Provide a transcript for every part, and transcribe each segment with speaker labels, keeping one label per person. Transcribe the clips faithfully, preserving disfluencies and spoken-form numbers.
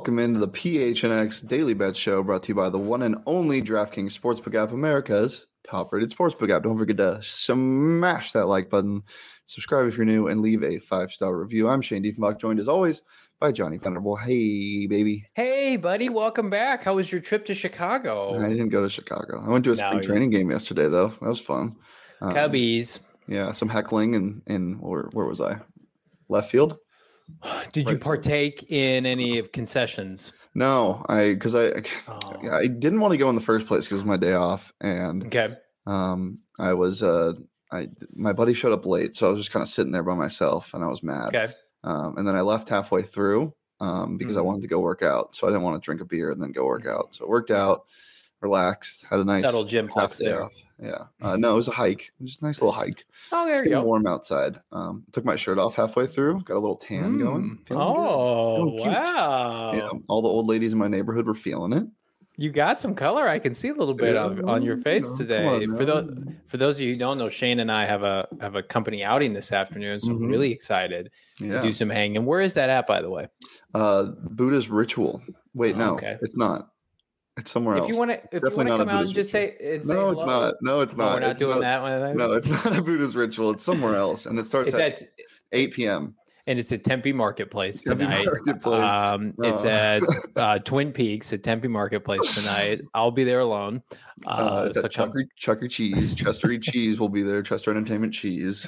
Speaker 1: welcome into the P H N X Daily Bet Show, brought to you by the one and only DraftKings Sportsbook app, America's top-rated sportsbook app. Don't forget to smash that like button, subscribe if you're new, and leave a five-star review. I'm Shane Diefenbach, joined as always by Johnny Thunderbolt. Hey, baby.
Speaker 2: Hey, buddy. Welcome back. How was your trip to Chicago?
Speaker 1: I didn't go to Chicago. I went to a spring no, training game yesterday, though. That was fun.
Speaker 2: Um, Cubbies.
Speaker 1: Yeah, some heckling and in where, where was I? Left field.
Speaker 2: Did right you partake field. in any of concessions?
Speaker 1: No, I because I oh. I didn't want to go in the first place because it was my day off, and
Speaker 2: okay.
Speaker 1: um, I was uh, I my buddy showed up late, so I was just kind of sitting there by myself, and I was mad.
Speaker 2: Okay.
Speaker 1: Um, and then I left halfway through um, because mm-hmm. I wanted to go work out, so I didn't want to drink a beer and then go work out. So I worked out, relaxed, had a nice
Speaker 2: subtle gym flex there.
Speaker 1: Off. Yeah. Uh, no, it was a hike. It was a nice little hike.
Speaker 2: Oh, there
Speaker 1: it's
Speaker 2: you go.
Speaker 1: Warm outside. Um, took my shirt off halfway through. Got a little tan mm. going.
Speaker 2: Oh, wow.
Speaker 1: Yeah, all the old ladies in my neighborhood were feeling it.
Speaker 2: You got some color. I can see a little bit yeah, on, on your face you know, today. On, for those for those of you who don't know, Shane and I have a have a company outing this afternoon, so mm-hmm. I'm really excited yeah. to do some hanging. Where is that at, by the way?
Speaker 1: Uh, Buddha's Ritual. Wait,
Speaker 2: oh,
Speaker 1: no,
Speaker 2: okay.
Speaker 1: it's not. It's somewhere
Speaker 2: if
Speaker 1: else.
Speaker 2: You wanna, if Definitely you want to come out and just say, and
Speaker 1: no,
Speaker 2: say
Speaker 1: it's not. No, it's not.
Speaker 2: No, we're not
Speaker 1: it's
Speaker 2: doing
Speaker 1: not,
Speaker 2: that one.
Speaker 1: No, it's not a Buddha's Ritual. It's somewhere else, and it starts
Speaker 2: it's
Speaker 1: at, at eight p.m.
Speaker 2: And it's at Tempe Marketplace
Speaker 1: Tempe
Speaker 2: tonight.
Speaker 1: Marketplace.
Speaker 2: Um, oh. It's at uh, Twin Peaks at Tempe Marketplace tonight. I'll be there alone. Uh,
Speaker 1: uh, it's
Speaker 2: so
Speaker 1: at Chuck E. Chuck E. Cheese. Chester E. Cheese will be there. Chester Entertainment Cheese.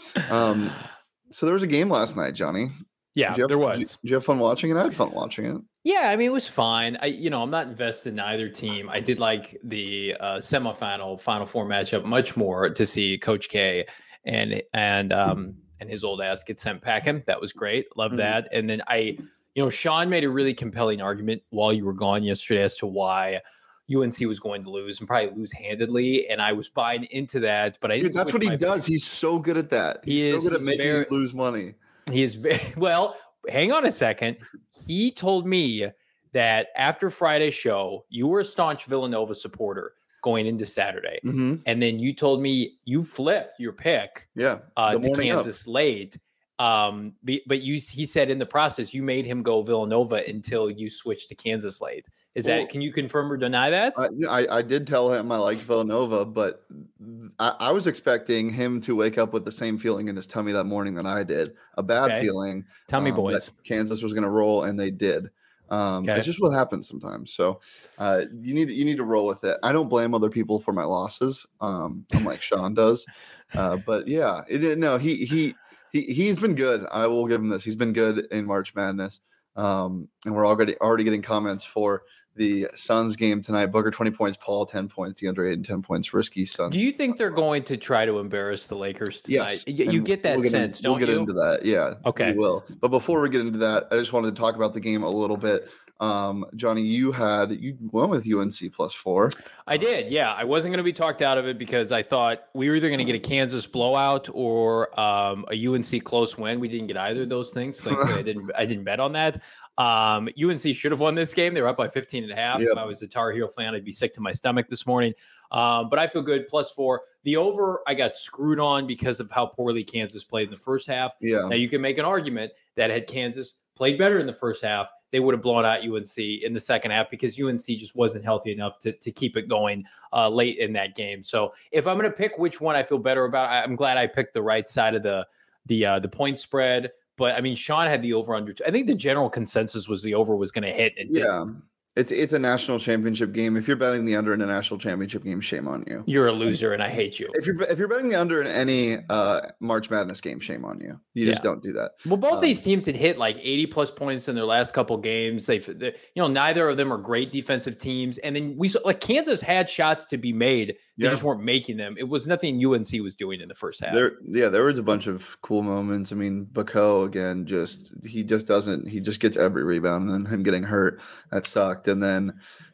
Speaker 1: Um, so there was a game last night, Johnny.
Speaker 2: Yeah,
Speaker 1: did have,
Speaker 2: there was.
Speaker 1: Did you, did you have fun watching it? I had fun watching it.
Speaker 2: Yeah, I mean, it was fine. I, you know, I'm not invested in either team. I did like the uh, semifinal, Final Four matchup much more to see Coach K and and um and his old ass get sent packing. That was great. Love mm-hmm. that. And then I, you know, Sean made a really compelling argument while you were gone yesterday as to why U N C was going to lose and probably lose handedly, and I was buying into that. But I
Speaker 1: Dude, that's what he does. He's so good at that. He's he is, so good at making very, you lose money.
Speaker 2: He is very well. Hang on a second. He told me that after Friday's show, you were a staunch Villanova supporter going into Saturday.
Speaker 1: Mm-hmm.
Speaker 2: And then you told me you flipped your pick
Speaker 1: yeah,
Speaker 2: uh, to Kansas up. late. Um, but you, he said in the process, you made him go Villanova until you switched to Kansas late. Is well, that, can you confirm or deny that?
Speaker 1: I, I, I did tell him I liked Villanova, but I, I was expecting him to wake up with the same feeling in his tummy that morning that I did. A bad okay. feeling.
Speaker 2: Tell me,
Speaker 1: um,
Speaker 2: boys.
Speaker 1: Kansas was going to roll, and they did. Um, okay. It's just what happens sometimes. So uh, you need you need to roll with it. I don't blame other people for my losses, um, unlike Sean does. Uh, but yeah, it, no, he he he he's been good. I will give him this. He's been good in March Madness, um, and we're already already getting comments for the Suns game tonight. Booker twenty points, Paul ten points, DeAndre Ayton ten points, risky Suns.
Speaker 2: Do you think they're going to try to embarrass the Lakers tonight?
Speaker 1: Yes.
Speaker 2: You, you get that
Speaker 1: we'll
Speaker 2: sense,
Speaker 1: in,
Speaker 2: don't
Speaker 1: we'll get
Speaker 2: you?
Speaker 1: into that. Yeah.
Speaker 2: Okay.
Speaker 1: We will. But before we get into that, I just wanted to talk about the game a little bit. Um, Johnny, you had you went with U N C plus four.
Speaker 2: I did, yeah. I wasn't going to be talked out of it because I thought we were either going to get a Kansas blowout or um, a U N C close win. We didn't get either of those things. Thankfully, I didn't. I didn't bet on that. Um, U N C should have won this game. They were up by fifteen and a half. Yep. If I was a Tar Heel fan, I'd be sick to my stomach this morning. Um, but I feel good. Plus four. The over, I got screwed on because of how poorly Kansas played in the first half.
Speaker 1: Yeah.
Speaker 2: Now you can make an argument that had Kansas played better in the first half, they would have blown out U N C in the second half because U N C just wasn't healthy enough to, to keep it going uh, late in that game. So if I'm going to pick which one I feel better about, I'm glad I picked the right side of the the uh, the point spread. But I mean, Sean had the over under. I think the general consensus was the over was going to hit. It
Speaker 1: yeah.
Speaker 2: didn't.
Speaker 1: It's it's a national championship game. If you're betting the under in a national championship game, shame on you.
Speaker 2: You're a loser, and I hate you.
Speaker 1: If you're if you're betting the under in any uh, March Madness game, shame on you. You just yeah. don't do that.
Speaker 2: Well, both
Speaker 1: um,
Speaker 2: these teams had hit like eighty plus points in their last couple games. They've, they, you know, neither of them are great defensive teams. And then we saw like Kansas had shots to be made. They yeah. just weren't making them. It was nothing U N C was doing in the first half.
Speaker 1: There, yeah, there was a bunch of cool moments. I mean, Bako again, just he just doesn't. He just gets every rebound, and then him getting hurt that sucked. And then.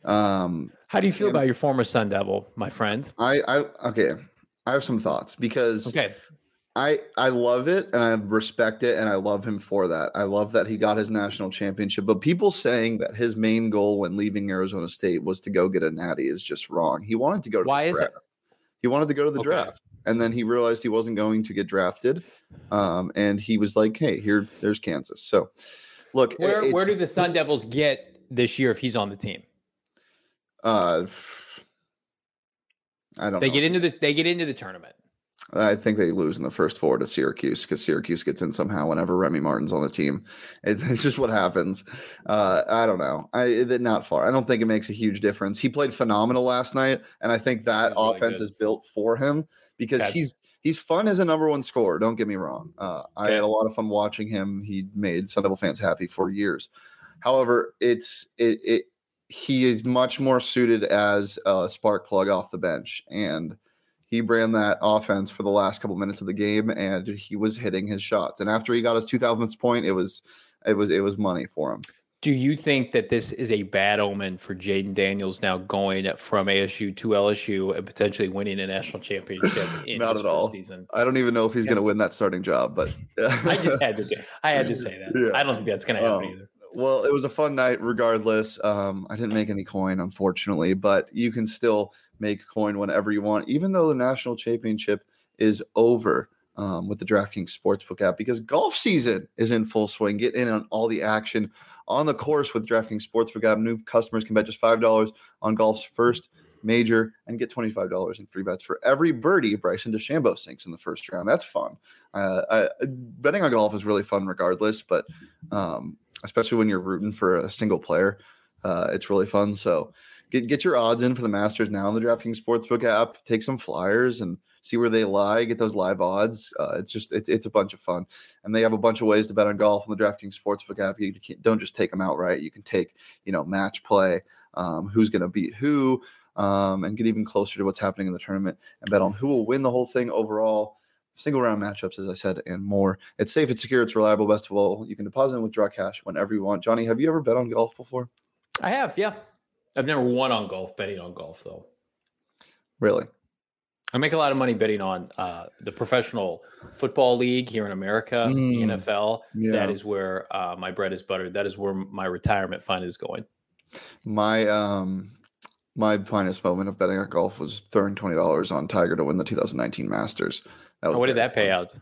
Speaker 1: Um,
Speaker 2: How do you feel about your former Sun Devil, my friend?
Speaker 1: I, I, okay. I have some thoughts because
Speaker 2: okay.
Speaker 1: I, I love it and I respect it and I love him for that. I love that he got his national championship, but people saying that his main goal when leaving Arizona State was to go get a natty is just wrong. He wanted to go to
Speaker 2: Why
Speaker 1: the
Speaker 2: is
Speaker 1: draft.
Speaker 2: it?
Speaker 1: He wanted to go to the
Speaker 2: okay.
Speaker 1: draft. And then he realized he wasn't going to get drafted. Um, and he was like, hey, here, there's Kansas. So look,
Speaker 2: where, where do the Sun Devils get this year if he's on the team?
Speaker 1: Uh, I don't.
Speaker 2: They
Speaker 1: know.
Speaker 2: get into the they get into the tournament.
Speaker 1: I think they lose in the first four to Syracuse because Syracuse gets in somehow whenever Remy Martin's on the team. It, it's just what happens. Uh, I don't know. I it, not far. I don't think it makes a huge difference. He played phenomenal last night, and I think that really offense good. is built for him because That's... he's he's fun as a number one scorer. Don't get me wrong. Uh, okay. I had a lot of fun watching him. He made Sun Devil fans happy for years. However, it's it it he is much more suited as a spark plug off the bench, and he ran that offense for the last couple minutes of the game, and he was hitting his shots. And after he got his two thousandth point, it was it was it was money for him.
Speaker 2: Do you think that this is a bad omen for Jaden Daniels now going from A S U to L S U and potentially winning a national championship in
Speaker 1: Not
Speaker 2: his
Speaker 1: at all.
Speaker 2: season?
Speaker 1: I don't even know if he's yeah. going to win that starting job, but
Speaker 2: I just had to do, I had to say that. Yeah. I don't think that's going to happen um, either.
Speaker 1: Well, it was a fun night regardless. Um, I didn't make any coin, unfortunately, but you can still make coin whenever you want, even though the national championship is over um, with the DraftKings Sportsbook app, because golf season is in full swing. Get in on all the action on the course with DraftKings Sportsbook app. New customers can bet just five dollars on golf's first major and get twenty-five dollars in free bets for every birdie Bryson DeChambeau sinks in the first round. That's fun. Uh, I, betting on golf is really fun regardless, but um, especially when you're rooting for a single player, uh, it's really fun. So get get your odds in for the Masters now in the DraftKings Sportsbook app. Take some flyers and see where they lie. Get those live odds. Uh, it's just it's it's a bunch of fun, and they have a bunch of ways to bet on golf on the DraftKings Sportsbook app. You don't just take them outright. You can take you know match play, um, who's going to beat who, um, and get even closer to what's happening in the tournament and bet on who will win the whole thing overall. Single round matchups, as I said, and more. It's safe, it's secure, it's reliable. Best of all, you can deposit and withdraw cash whenever you want. Johnny, have you ever bet on golf before?
Speaker 2: I have, yeah. I've never won on golf, betting on golf, though.
Speaker 1: Really?
Speaker 2: I make a lot of money betting on uh, the professional football league here in America, mm, the N F L. Yeah. That is where uh, my bread is buttered. That is where my retirement fund is going.
Speaker 1: My um, my finest moment of betting on golf was throwing twenty dollars on Tiger to win the two thousand nineteen Masters.
Speaker 2: Oh, what did that pay out?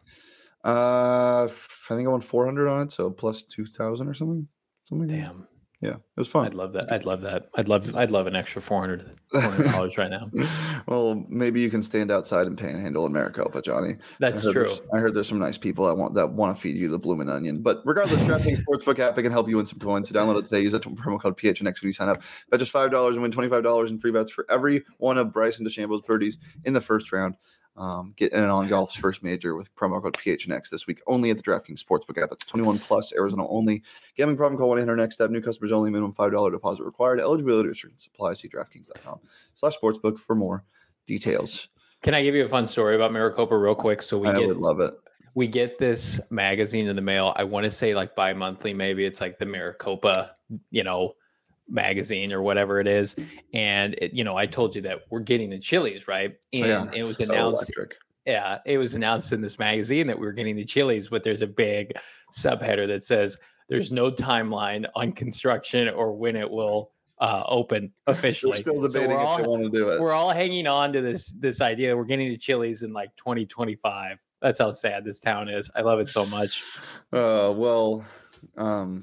Speaker 1: Uh, I think I won four hundred on it, so plus two thousand or something. Something.
Speaker 2: Damn.
Speaker 1: Yeah, it was fun.
Speaker 2: I'd love that. I'd love that. I'd love. I'd love an extra four hundred dollars right now.
Speaker 1: Well, maybe you can stand outside and panhandle in Maricopa, Johnny.
Speaker 2: That's I true.
Speaker 1: I heard there's some nice people that want that want to feed you the bloomin' onion. But regardless, DraftKings Sportsbook app, it can help you win some coins. So download it today. Use that promo code P H N X when you sign up. Bet just five dollars and win twenty-five dollars in free bets for every one of Bryson DeChambeau's birdies in the first round. Um, get in on golf's first major with promo code P H N X this week only at the DraftKings Sportsbook app. That's twenty-one plus, Arizona only. Gambling problem? Call one eight hundred next step. New customers only. Minimum five dollars deposit required. Eligibility restrictions apply. See DraftKings.com slash sportsbook for more details.
Speaker 2: Can I give you a fun story about Maricopa real quick? So we
Speaker 1: I
Speaker 2: get,
Speaker 1: would love it.
Speaker 2: We get this magazine in the mail. I want to say like bi-monthly, maybe it's like the Maricopa, you know, magazine or whatever it is. And it, you know, I told you that we're getting the Chili's, right? And
Speaker 1: yeah,
Speaker 2: it was
Speaker 1: so
Speaker 2: announced.
Speaker 1: Electric.
Speaker 2: Yeah, it was announced in this magazine that we were getting the Chili's, but there's a big subheader that says there's no timeline on construction or when it will uh, open officially.
Speaker 1: We're still debating
Speaker 2: so
Speaker 1: if
Speaker 2: all,
Speaker 1: they want to do it.
Speaker 2: We're all hanging on to this this idea that we're getting the Chili's in like twenty twenty-five. That's how sad this town is. I love it so much.
Speaker 1: Uh, well, um,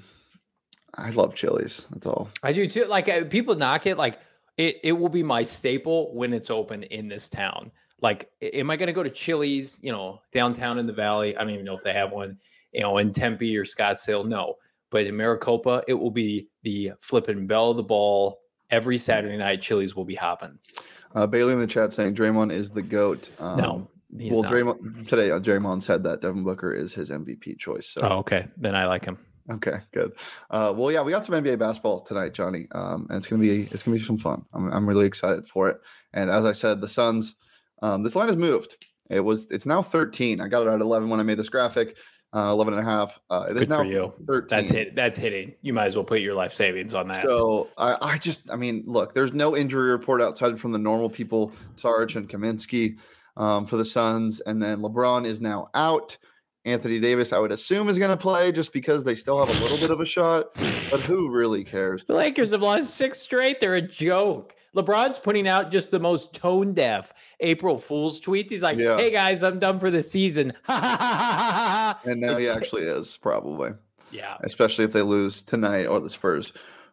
Speaker 1: I love Chili's. That's all.
Speaker 2: I do too. Like uh, people knock it. Like it, it will be my staple when it's open in this town. Like, am I going to go to Chili's, you know, downtown in the Valley? I don't even know if they have one, you know, in Tempe or Scottsdale. No, but in Maricopa, it will be the flipping bell of the ball. Every Saturday night, Chili's will be hopping.
Speaker 1: Uh, Bailey in the chat saying Draymond is the GOAT. Um,
Speaker 2: no. He's
Speaker 1: well,
Speaker 2: not.
Speaker 1: Draymond today, uh, Draymond said that Devin Booker is his M V P choice. So.
Speaker 2: Oh, okay. Then I like him.
Speaker 1: Okay, good. Uh, well, yeah, we got some N B A basketball tonight, Johnny, um, and it's gonna be it's gonna be some fun. I'm I'm really excited for it. And as I said, the Suns, um, this line has moved. It was it's now thirteen. I got it at eleven when I made this graphic. Uh, eleven and a half. Uh, it is now thirteen.
Speaker 2: That's hit. That's hitting. You might as well put your life savings on that.
Speaker 1: So I, I just, I mean, look, there's no injury report outside from the normal people, Sarge and Kaminsky. Um, for the Suns, and then LeBron is now out. Anthony Davis, I would assume, is going to play just because they still have a little bit of a shot, but who really cares?
Speaker 2: The Lakers have lost six straight. They're a joke. LeBron's putting out just the most tone-deaf April Fool's tweets. He's like, yeah. Hey, guys, I'm done for the season.
Speaker 1: And now he actually is, probably.
Speaker 2: Yeah.
Speaker 1: Especially if they lose tonight or the Spurs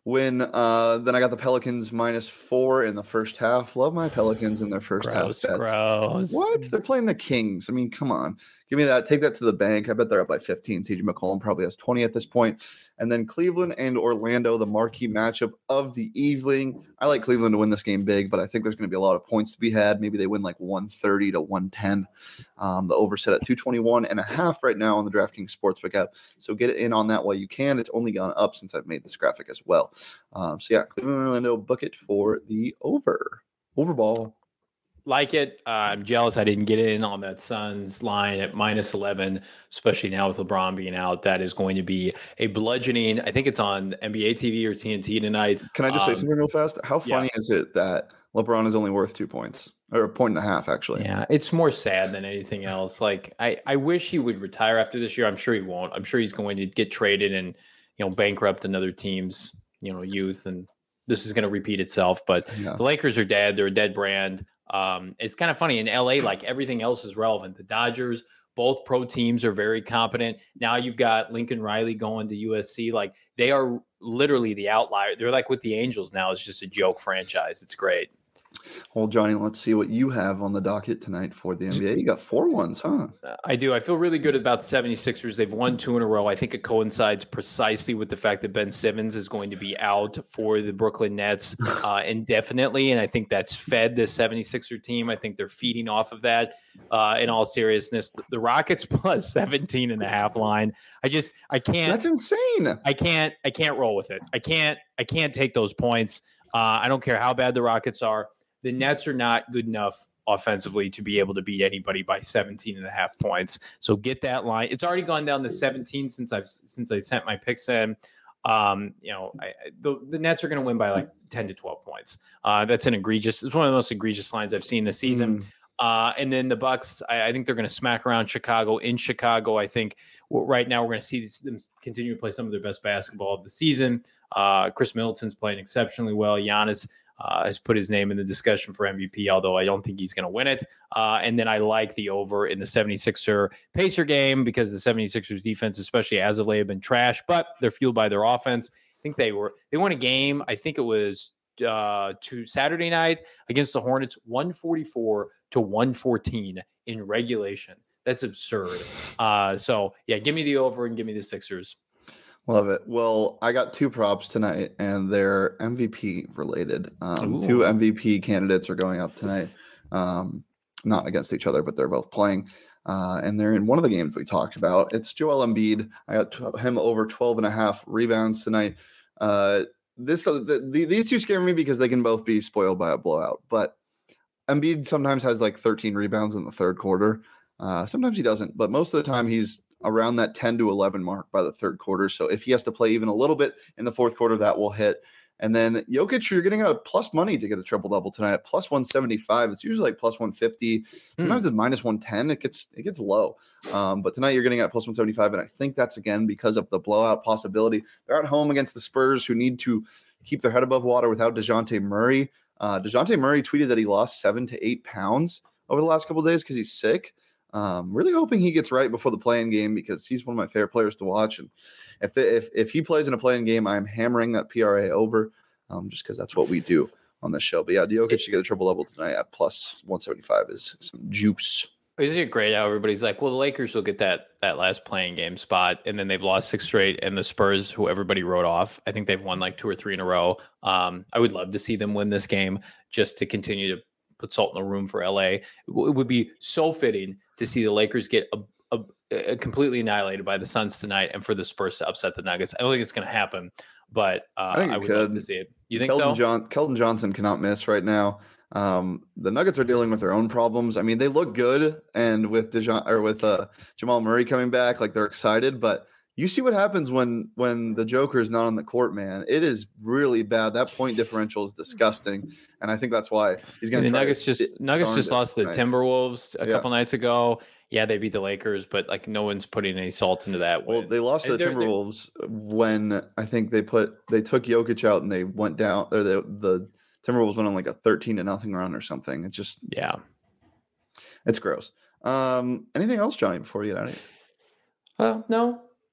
Speaker 1: When uh, then I got the Pelicans minus four in the first half. Love my Pelicans in their first
Speaker 2: gross,
Speaker 1: half bets.
Speaker 2: Gross.
Speaker 1: What? They're playing the Kings. I mean, come on. Give me that. Take that to the bank. I bet they're up by fifteen. C J McCollum probably has twenty at this point. And then Cleveland and Orlando, the marquee matchup of the evening. I like Cleveland to win this game big, but I think there's going to be a lot of points to be had. Maybe they win like one thirty to one ten. Um, the over set at two twenty-one and a half right now on the DraftKings Sportsbook app. So get in on that while you can. It's only gone up since I've made this graphic as well. Um, so yeah, Cleveland and Orlando, book it for the over. Overball.
Speaker 2: Like it. Uh, I'm jealous I didn't get in on that Suns line at minus eleven, especially now with LeBron being out. That is going to be a bludgeoning. I think it's on N B A T V or T N T tonight.
Speaker 1: Can I just um, say something real fast? How funny
Speaker 2: yeah.
Speaker 1: is it that LeBron is only worth two points or a point and a half, actually?
Speaker 2: Yeah, it's more sad than anything else. Like, I, I wish he would retire after this year. I'm sure he won't. I'm sure he's going to get traded and, you know, bankrupt another team's, you know, youth. And this is going to repeat itself. But yeah. The Lakers are dead. They're a dead brand. Um, it's kind of funny in L A, like everything else is relevant. The Dodgers, both pro teams are very competent. Now you've got Lincoln Riley going to U S C. Like they are literally the outlier. They're like with the Angels now. It's just a joke franchise. It's great.
Speaker 1: Well, Johnny, let's see what you have on the docket tonight for the N B A. You got four ones, huh?
Speaker 2: I do. I feel really good about the seventy-sixers. They've won two in a row. I think it coincides precisely with the fact that Ben Simmons is going to be out for the Brooklyn Nets uh, indefinitely, and I think that's fed this seventy-sixer team. I think they're feeding off of that. Uh, in all seriousness, the Rockets plus seventeen and a half line. I just, I can't.
Speaker 1: That's insane.
Speaker 2: I can't, I can't roll with it. I can't, I can't take those points. Uh, I don't care how bad the Rockets are. The Nets are not good enough offensively to be able to beat anybody by seventeen and a half points. So get that line. It's already gone down to seventeen since I've since I sent my picks in. Um, you know, I, the the Nets are going to win by like ten to twelve points. Uh, that's an egregious. It's one of the most egregious lines I've seen this season. Mm. Uh, and then the Bucks, I, I think they're going to smack around Chicago. In Chicago, I think well, right now we're going to see them continue to play some of their best basketball of the season. Uh, Chris Middleton's playing exceptionally well. Giannis Uh, has put his name in the discussion for M V P, although I don't think he's going to win it. Uh, and then I like the over in the seventy-sixer Pacer game because the seventy-sixers defense, especially as of late, have been trash, but they're fueled by their offense. I think they were, they won a game. I think it was uh, to Saturday night against the Hornets, one forty-four to one fourteen in regulation. That's absurd. Uh, so yeah, give me the over and give me the Sixers.
Speaker 1: Love it. Well, I got two props tonight, and they're M V P related. Um, two M V P candidates are going up tonight, um, not against each other, but they're both playing. Uh, and they're in one of the games we talked about. It's Joel Embiid. I got t- him over twelve and a half rebounds tonight. Uh, this uh, the, the, These two scare me because they can both be spoiled by a blowout. But Embiid sometimes has like thirteen rebounds in the third quarter. Uh, sometimes he doesn't, but most of the time he's around that ten to eleven mark by the third quarter. So if he has to play even a little bit in the fourth quarter, that will hit. And then Jokic, you're getting a plus money to get the triple double tonight at plus one seventy-five. It's usually like plus one fifty. Sometimes hmm. it's minus one ten. It gets it gets low. Um, but tonight you're getting at plus one seventy-five. And I think that's again because of the blowout possibility. They're at home against the Spurs, who need to keep their head above water without DeJounte Murray. Uh, DeJounte Murray tweeted that he lost seven to eight pounds over the last couple of days because he's sick. Um, really hoping he gets right before the play-in game because he's one of my favorite players to watch. And if they, if if he plays in a play-in game, I'm hammering that P R A over um, just because that's what we do on this show. But yeah, Jokic should get a triple double tonight at plus one seventy-five is some juice.
Speaker 2: Isn't it great how everybody's like, well, the Lakers will get that that last play-in game spot, and then they've lost six straight, and the Spurs, who everybody wrote off, I think they've won like two or three in a row. Um, I would love to see them win this game just to continue to put salt in the room for L A. It would be so fitting to see the Lakers get a, a, a completely annihilated by the Suns tonight and for the Spurs to upset the Nuggets. I don't think it's going to happen, but uh, I, I would could. love to see it. You think
Speaker 1: Keldon
Speaker 2: so?
Speaker 1: John, Keldon Johnson cannot miss right now. Um, the Nuggets are dealing with their own problems. I mean, they look good, and with Dejoun, or with uh, Jamal Murray coming back, like they're excited, but you see what happens when when the Joker is not on the court, man. It is really bad. That point differential is disgusting, and I think that's why he's going to.
Speaker 2: The Nuggets just it, Nuggets just lost the Timberwolves a yeah. couple nights ago. Yeah, they beat the Lakers, but like no one's putting any salt into that win.
Speaker 1: Well, they lost to the Timberwolves they're, when I think they put they took Jokic out and they went down. Or the the Timberwolves went on like a thirteen to nothing run or something. It's just
Speaker 2: yeah,
Speaker 1: it's gross. Um, anything else, Johnny? Before we get out of here?
Speaker 2: Uh, no.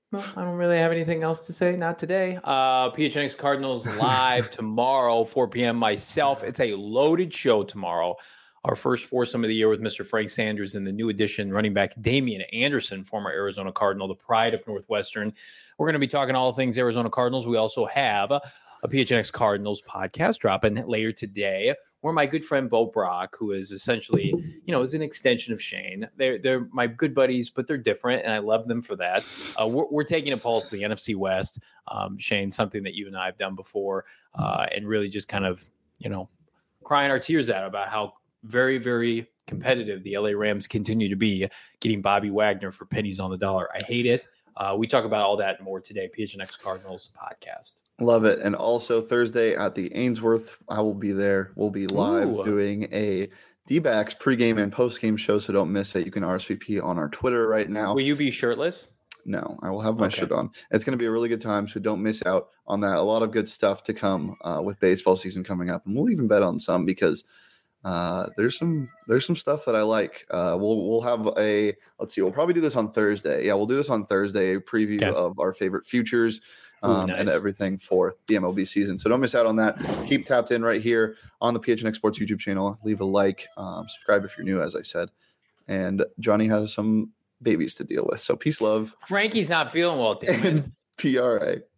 Speaker 2: Well, I don't really have anything else to say. Not today. Uh, P H N X Cardinals live tomorrow, four p.m. Myself. It's a loaded show tomorrow. Our first foursome of the year with Mister Frank Sanders and the new addition, running back Damian Anderson, former Arizona Cardinal, the pride of Northwestern. We're going to be talking all things Arizona Cardinals. We also have a, a P H N X Cardinals podcast dropping later today, where my good friend Bo Brock, who is essentially, you know, is an extension of Shane. They're they're my good buddies, but they're different, and I love them for that. Uh, we're, we're taking a pulse to the N F C West, um, Shane, something that you and I have done before, uh, and really just kind of, you know, crying our tears out about how very, very competitive the L A Rams continue to be, getting Bobby Wagner for pennies on the dollar. I hate it. Uh, we talk about all that and more today. P H N X Cardinals podcast.
Speaker 1: Love it. And also Thursday at the Ainsworth, I will be there. We'll be live
Speaker 2: Ooh.
Speaker 1: doing a D-backs pregame and postgame show, so don't miss it. You can R S V P on our Twitter right now.
Speaker 2: Will you be shirtless?
Speaker 1: No, I will have my
Speaker 2: Okay.
Speaker 1: shirt on. It's going to be a really good time, so don't miss out on that. A lot of good stuff to come uh, with baseball season coming up, and we'll even bet on some because uh, there's some there's some stuff that I like. Uh, we'll we'll have a let's see. We'll probably do this on Thursday. Yeah, we'll do this on Thursday. A preview
Speaker 2: Okay.
Speaker 1: of our favorite futures.
Speaker 2: Ooh,
Speaker 1: Um,
Speaker 2: nice.
Speaker 1: and everything for the M L B season. So don't miss out on that. Keep tapped in right here on the P H N X Sports YouTube channel. Leave a like, um, subscribe if you're new, as I said. And Johnny has some babies to deal with. So peace, love,
Speaker 2: Frankie's not feeling well, damn it.
Speaker 1: and P R A.